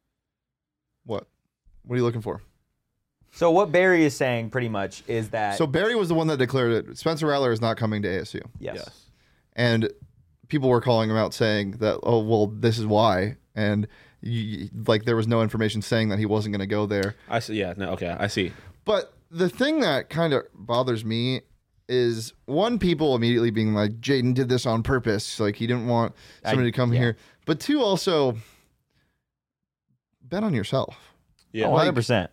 what? What are you looking for? So what Barry is saying pretty much is that So Barry was the one that declared it. Spencer Rattler is not coming to ASU. yes. And people were calling him out saying that, oh, well, this is why. And like there was no information saying that he wasn't going to go there. I see. Yeah. No. Okay. I see. But the thing that kind of bothers me is one, people immediately being like, Jaden did this on purpose. Like he didn't want somebody to come yeah. here. But two, also bet on yourself. Yeah. Oh, 100%.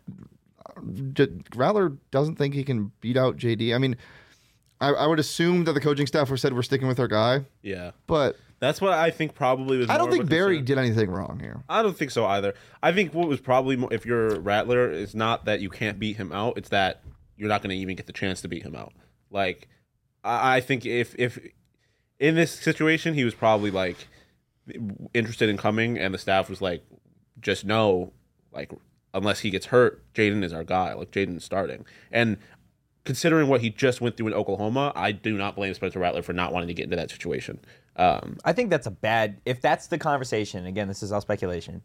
Rattler doesn't think he can beat out JD. I mean, I would assume that the coaching staff said we're sticking with our guy, Yeah. but That's what I think probably was. I don't more of think a Barry concern. did anything wrong here. I don't think so either. I think what was probably more, if you're Rattler, is not that you can't beat him out. It's that you're not going to even get the chance to beat him out. Like, I think if in this situation he was probably like interested in coming, and the staff was like, just know, like, unless he gets hurt, Jaden is our guy. Like Jaden's starting. And considering what he just went through in Oklahoma, I do not blame Spencer Rattler for not wanting to get into that situation. I think that's a bad. If that's the conversation, again, this is all speculation.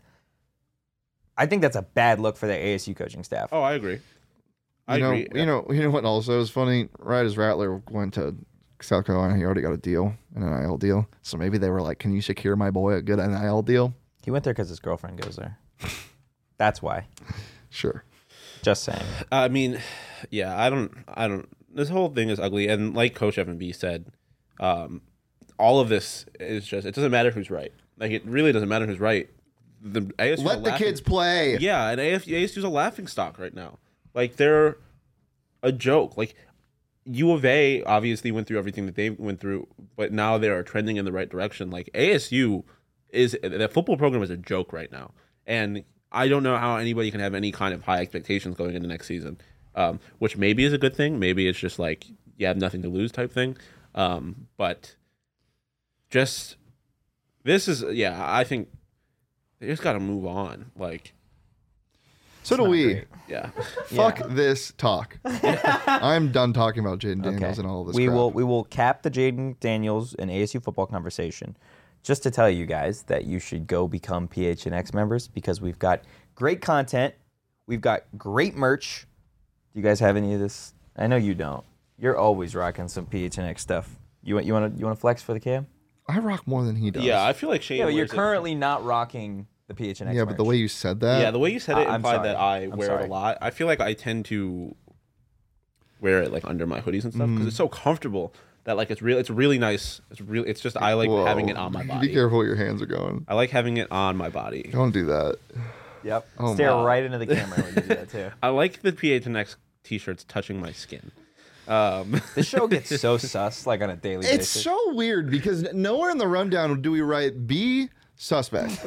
I think that's a bad look for the ASU coaching staff. Oh, I agree. I You know, agree. you know what also is funny? Right as Rattler went to South Carolina, he already got a deal, an NIL deal. So maybe they were like, "Can you secure my boy a good NIL deal?" He went there because his girlfriend goes there. That's why. Sure. Just saying. I mean, yeah, I don't. This whole thing is ugly, and like Coach Evan B said, all of this is just. It doesn't matter who's right. Like it really doesn't matter who's right. The ASU Let the kids play. Yeah, and ASU's a laughing stock right now. Like they're a joke. Like U of A obviously went through everything that they went through, but now they are trending in the right direction. Like ASU is the football program is a joke right now, and I don't know how anybody can have any kind of high expectations going into next season, which maybe is a good thing. Maybe it's just like you have nothing to lose type thing. But just this is I think they just got to move on. Like So do not we. great. yeah, Fuck this talk. I'm done talking about Jaden Daniels Okay. and all of this we crap. will cap the Jaden Daniels and ASU football conversation just to tell you guys that you should go become PHNX members because we've got great content. We've got great merch. Do you guys have any of this? I know you don't. You're always rocking some PHNX stuff. You want to flex for the cam? I rock more than he does. yeah. I feel like Shane. Yeah, but you're wears it. currently not rocking the PHNX. Yeah, but the merch. way you said that. Yeah, the way you said it I'm implied sorry. that I I'm wear sorry. it a lot. I feel like I tend to wear it like under my hoodies and stuff because it's so comfortable that like it's really nice. It's just I like Whoa. having it on my Be body. careful where your hands are going. I like having it on my body. Don't do that. Yep. Oh Stare my. right into the camera when you do that too. I like the PHNX t-shirts touching my skin. This show gets so sus like on a daily It's basis. so weird because nowhere in the rundown do we write B suspect.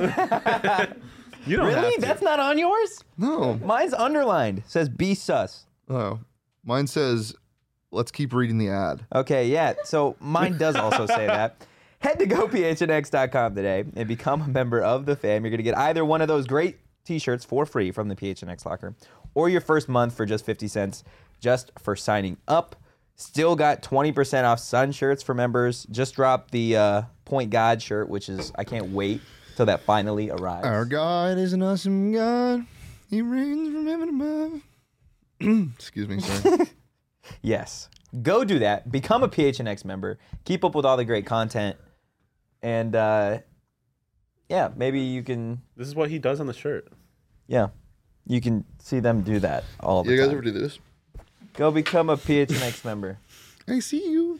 You don't Really? That's not on yours? No. Mine's underlined. Says be sus. Oh. Mine says, let's keep reading the ad. Okay, yeah. So mine does also say that. Head to gophnx.com today and become a member of the fam. You're going to get either one of those great t-shirts for free from the PHNX locker or your first month for just 50 cents just for signing up. Still got 20% off Sun shirts for members. Just dropped the Point God shirt, which is, I can't wait till that finally arrives. Our God is an awesome God. He reigns from heaven above. Excuse me, sorry. Yes. Go do that. Become a PHNX member. Keep up with all the great content. And, yeah, maybe you can, This is what he does on the shirt. yeah, you can see them do that all the You guys time. ever do this? Go become a PHNX member. I see you.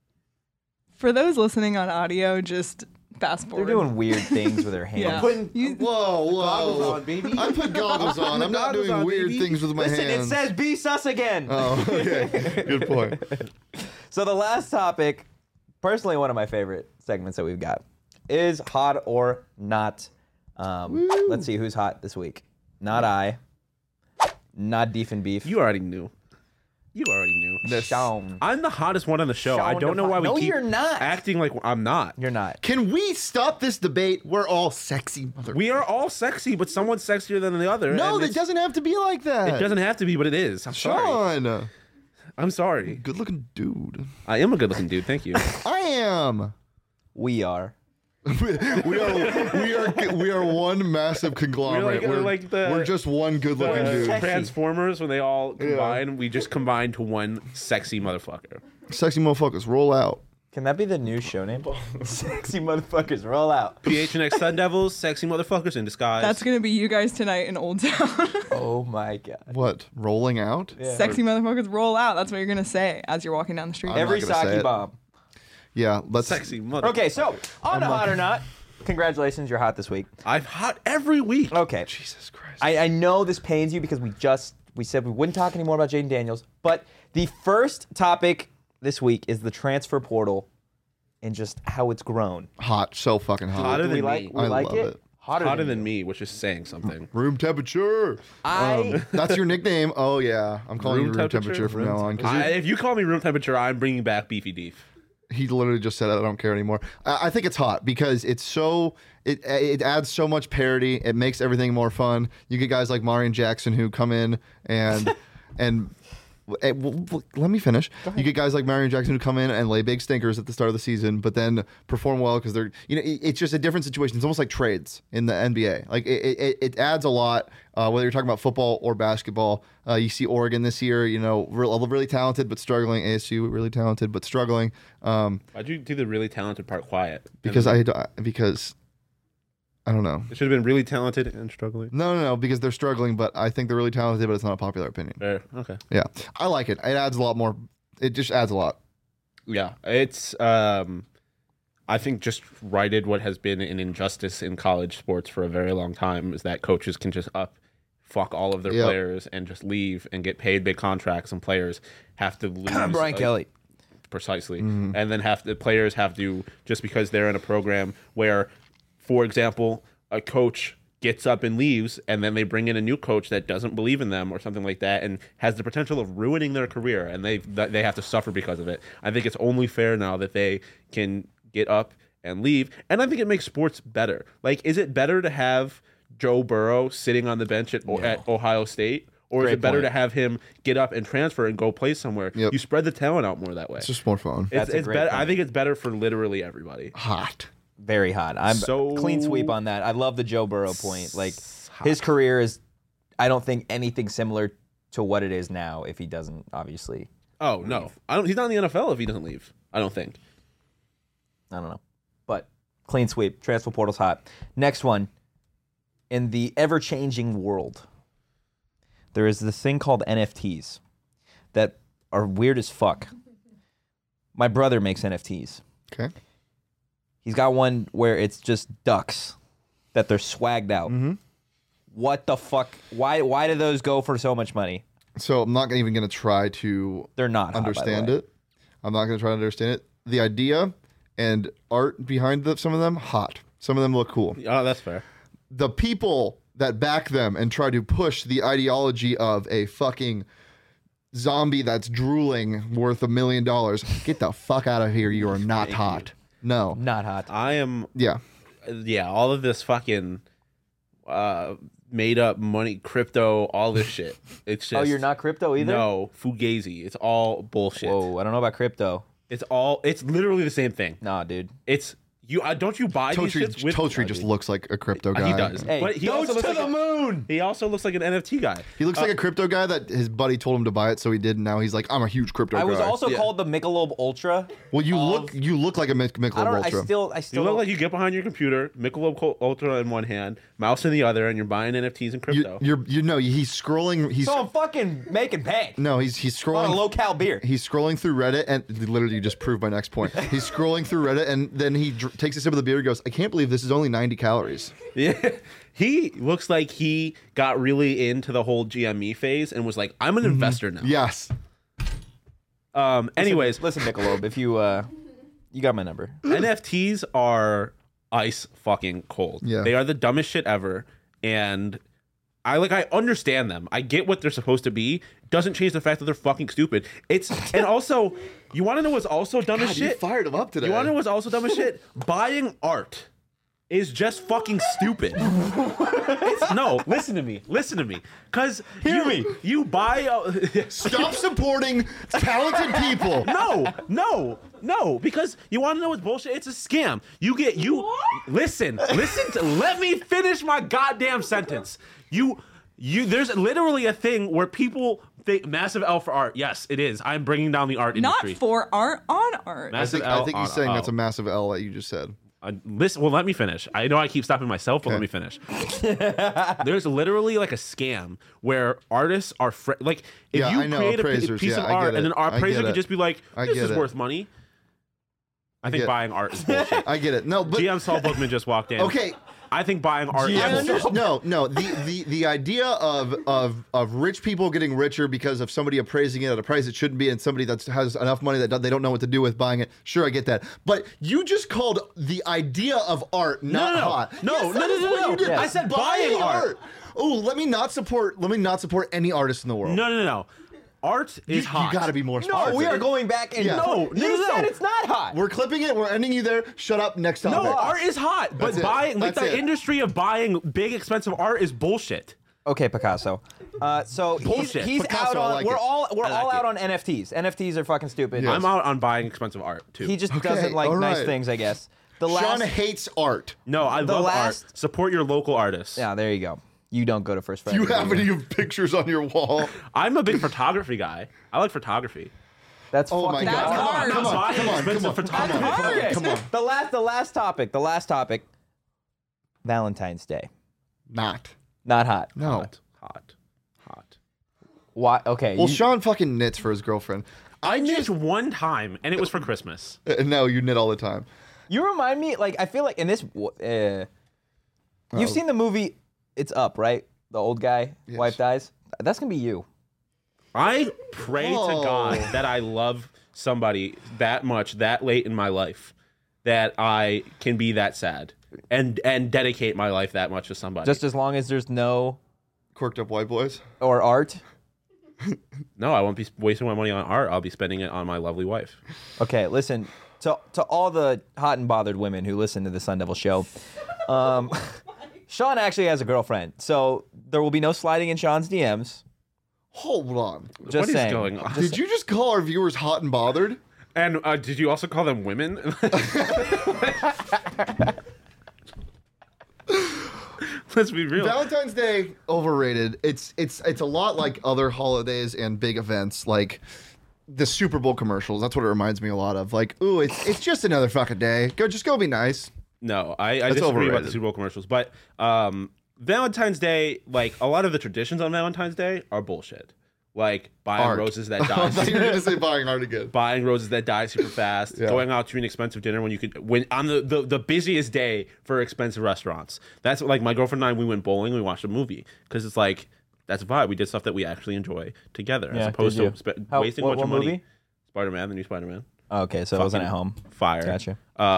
For those listening on audio, just fast They're forward. doing weird things with their hands. Yeah. You- Whoa. baby. I put goggles on. I'm not Goggles doing on, weird baby. things with my Listen, hands. it says be sus again. Oh, okay. Good point. So the last topic, personally one of my favorite segments that we've got, is hot or not. Let's see who's hot this week. Not I. Not Deef and Beef. You already knew. You already knew. Sean. I'm the hottest one on the show. I Sean don't know why we No, keep you're not. acting like I'm not. You're not. Can we stop this debate? We're all sexy mother. We are all sexy, but someone's sexier than the other. No, and it doesn't have to be like that. It doesn't have to be, but it is. I'm sorry. Sean, I'm sorry. good looking dude. I am a good-looking dude. Thank you. I am. We are. we are one massive conglomerate. We're just one good looking dude. Transformers, when they all combine, we just combine to one sexy motherfucker. Sexy motherfuckers, roll out. Can that be the new show name? Sexy motherfuckers, roll out. PHNX Sun Devils, sexy motherfuckers in disguise. That's gonna be you guys tonight in Old Town. Oh my god. What? Rolling out? Yeah. Sexy motherfuckers roll out. That's what you're gonna say as you're walking down the street. I'm Every not gonna say sake it. bomb. Yeah, let's. sexy motherfucker. Okay, so on to hot or not. Congratulations, you're hot this week. I'm hot every week. Okay. Jesus Christ. I know this pains you because we said we wouldn't talk anymore about Jaden Daniels, but the first topic this week is the transfer portal and just how it's grown. Hot, so fucking hot. Hotter Do we than like me. we I like love it? it. Hotter than me, which is saying something. Room temperature. I That's your nickname. Oh yeah, I'm calling you room temperature temperature? from now on. 'cause If you call me room temperature, I'm bringing back Beefy Deef. he literally just said it. I don't care anymore. I think it's hot because it's so it adds so much parity. It makes everything more fun. You get guys like Marion Jackson who come in and let me finish. You get guys like Marion Jackson who come in and lay big stinkers at the start of the season, but then perform well because they're it's just a different situation. It's almost like trades in the NBA. Like it adds a lot. Whether you're talking about football or basketball, you see Oregon this year. Really talented but struggling. ASU really talented but struggling. Why'd you do the really talented part quiet? Because I don't know. It should have been really talented and struggling. No, because they're struggling, but I think they're really talented, but it's not a popular opinion. Fair. Okay. Yeah, I like it. It adds a lot more. It just adds a lot. Yeah, it's I think just righted what has been an injustice in college sports for a very long time is that coaches can just fuck all of their Yep. players and just leave and get paid big contracts, and players have to lose. Brian Kelly. Precisely, and then the players have to, just because they're in a program where, for example, a coach gets up and leaves, and then they bring in a new coach that doesn't believe in them or something like that, and has the potential of ruining their career, and they have to suffer because of it. I think it's only fair now that they can get up and leave, and I think it makes sports better. Like, is it better to have Joe Burrow sitting on the bench at Ohio State? Or is Great it better point. to have him get up and transfer and go play somewhere? Yep. You spread the talent out more that way. It's just more fun. That's a It's great better. point. I think it's better for literally everybody. Hot. Very hot. I'm So- clean sweep on that. I love the Joe Burrow point. Like his career is, I don't think anything similar to what it is now if he doesn't obviously. Oh no, he's not in the NFL if he doesn't leave. I don't think. I don't know. But clean sweep. Transfer portal's hot. Next one. In the ever-changing world, there is this thing called NFTs that are weird as fuck. My brother makes NFTs. Okay. He's got one where it's just ducks that they're swagged out. Mm-hmm. What the fuck? Why do those go for so much money? So I'm not even going to try to They're not hot, understand by the way. it. I'm not going to try to understand it. The idea and art behind some of them, hot. Some of them look cool. Oh, that's fair. The people that back them and try to push the ideology of a fucking zombie that's drooling worth $1 million, get the fuck out of here. You are not hot. No. Not hot. I am. Yeah. Yeah, all of this fucking made up money, crypto, all this shit. It's just. Oh, you're not crypto either? No, fugazi. It's all bullshit. Whoa, I don't know about crypto. It's literally the same thing. Nah, dude. It's you. Don't you buy these shits with Totri just looks like a crypto guy. He does. Hey, But he goes also looks to like the moon! He also looks like an NFT guy. He looks like a crypto guy that his buddy told him to buy it, so he did. And now he's like, I'm a huge crypto guy. I was also Yeah. called the Michelob Ultra. Well, you look like a Michelob I don't. Ultra. I You still. look like you get behind your computer, Michelob Ultra in one hand, mouse in the other, and you're buying NFTs and crypto. he's scrolling. He's So I'm fucking making bank. no, he's On a scrolling. low cal beer. He's scrolling through Reddit, and literally you just proved my next point. He's scrolling through Reddit, and then he takes a sip of the beer and goes, I can't believe this is only 90 calories. Yeah. He looks like he got really into the whole GME phase and was like, I'm an investor now. Yes. Anyways, Listen, Michelob, if you got my number. NFTs are ice fucking cold. Yeah. They are the dumbest shit ever. And I understand them. I get what they're supposed to be. doesn't change the fact that they're fucking stupid. And also, you want to know what's also dumb as God, you shit? fired him up today. You want to know what's also dumb as shit? Buying art is just fucking stupid. No, listen to me. Because you buy. Stop supporting talented people. No, because you want to know what's bullshit? It's a scam. Listen, let me finish my goddamn sentence. There's literally a thing where people think massive L for art. Yes, it is. I'm bringing down the art industry. Not for art, on art. I think he's saying that's a massive L that you just said. Listen, well, let me finish. I know I keep stopping myself, but let me finish. There's literally like a scam where artists are if you create a piece of art and an appraiser could just be like, this is worth money. I think buying art is bullshit. I get it. No, but GM Saul Bookman just walked in. Okay. I think buying art is bullshit. No. The idea of rich people getting richer because of somebody appraising it at a price it shouldn't be, and somebody that has enough money that they don't know what to do with buying it. Sure, I get that. But you just called the idea of art not hot. No. Yes. I said buying art. Oh, let me not support any artist in the world. No. Art is hot. You got to be more specific. No, we are going back and you said it's not hot. We're clipping it. We're ending you there. Shut up. Next topic. No, art is hot, but the industry of buying big expensive art is bullshit. Okay, Picasso. So he's Picasso, out on. like we're it. all out on NFTs. NFTs are fucking stupid. I'm out on buying expensive art too. He just doesn't like nice things, I guess. Sean hates art. No, I love art. Support your local artists. Yeah, there you go. You don't go to First Friday. Do you have any pictures on your wall? I'm a big photography guy. I like photography. That's oh fucking my God. That's Come on. The last topic. Valentine's Day. Not hot. No. Hot. Why? Okay. Well, Sean fucking knits for his girlfriend. I knit one time, and it was for Christmas. No, you knit all the time. You remind me, like, I feel like in this, you've seen the movie It's Up, right? The old guy, wife dies. That's gonna be you. I pray to God that I love somebody that much, that late in my life, that I can be that sad and dedicate my life that much to somebody. Just as long as there's no Quirked up white boys. or art. No, I won't be wasting my money on art. I'll be spending it on my lovely wife. Okay, listen to all the hot and bothered women who listen to the Sun Devil show. Sean actually has a girlfriend, so there will be no sliding in Sean's DMs. Hold on. Just What is saying. going on? Did you just call our viewers hot and bothered? And did you also call them women? Let's be real. Valentine's Day overrated. It's a lot like other holidays and big events, like the Super Bowl commercials. That's what it reminds me a lot of. Like, ooh, it's just another fucking day. Go be nice. No, I disagree about overrated. the Super Bowl commercials, but Valentine's Day, like a lot of the traditions on Valentine's Day are bullshit. Like buying Art. roses that I die, thought you were gonna say buying art again. buying roses that die super fast, going out to an expensive dinner when on the busiest day for expensive restaurants. That's what, like my girlfriend and I, we went bowling, we watched a movie because it's like that's a vibe. We did stuff that we actually enjoy together, as opposed to wasting a bunch of money. Movie? Spider-Man, the new Spider-Man. Okay, so it wasn't at home. Fire. Gotcha.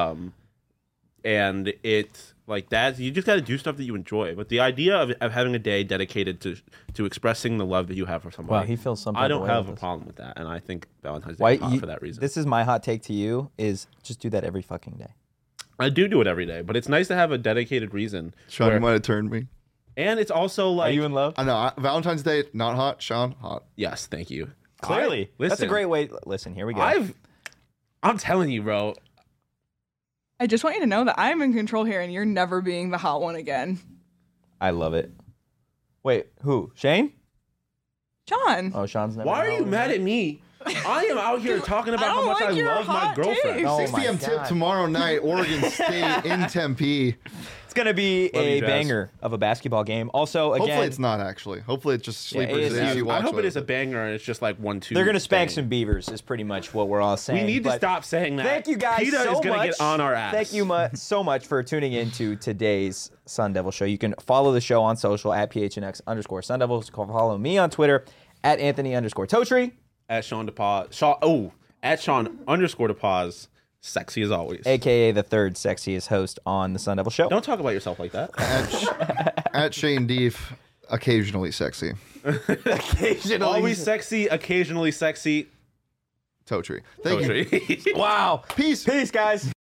And it's like that. You just got to do stuff that you enjoy. But the idea of having a day dedicated to expressing the love that you have for somebody. Wow, he feels something. I don't have a problem with that, and I think Valentine's Day is hot for that reason. This is my hot take to you: is just do that every fucking day. I do it every day, but it's nice to have a dedicated reason. Sean, you might have turned me. And it's also like, Are you in love? I know. Valentine's Day, not hot. Sean, hot. yes, thank you. Clearly, that's a Listen, great way. Listen, here we go. I'm telling you, bro. I just want you to know that I'm in control here and you're never being the hot one again. I love it. Wait, who? Shane? John. Oh, Sean's never. Why are you mad at me? I am out here talking about how much I love my girlfriend. Oh 6 my p.m. tip God. tomorrow night, Oregon State in Tempe. It's gonna be Love a you, Jazz. banger of a basketball game. Also, again, Hopefully it's not actually. Hopefully it's just sleepers. ASU. that you I watch hope it is a later. banger and it's just like 1-2. they're gonna spank bang. some beavers. Is pretty much what we're all saying. We need to But stop saying that. Thank you guys PETA so is gonna much. get on our ass. Thank you so much for tuning in to today's Sun Devil Show. You can follow the show on social at PHNX_Sun Devils. Follow me on Twitter at Anthony_Totri. At Sean DePaz. At Sean_DePaz. Sexy as always. AKA the third sexiest host on the Sun Devil Show. Don't talk about yourself like that. At Shane Deef. Occasionally sexy. Occasionally. Always sexy, occasionally sexy. Toe tree. Thank you. Poetry. Wow. Peace. Peace, guys.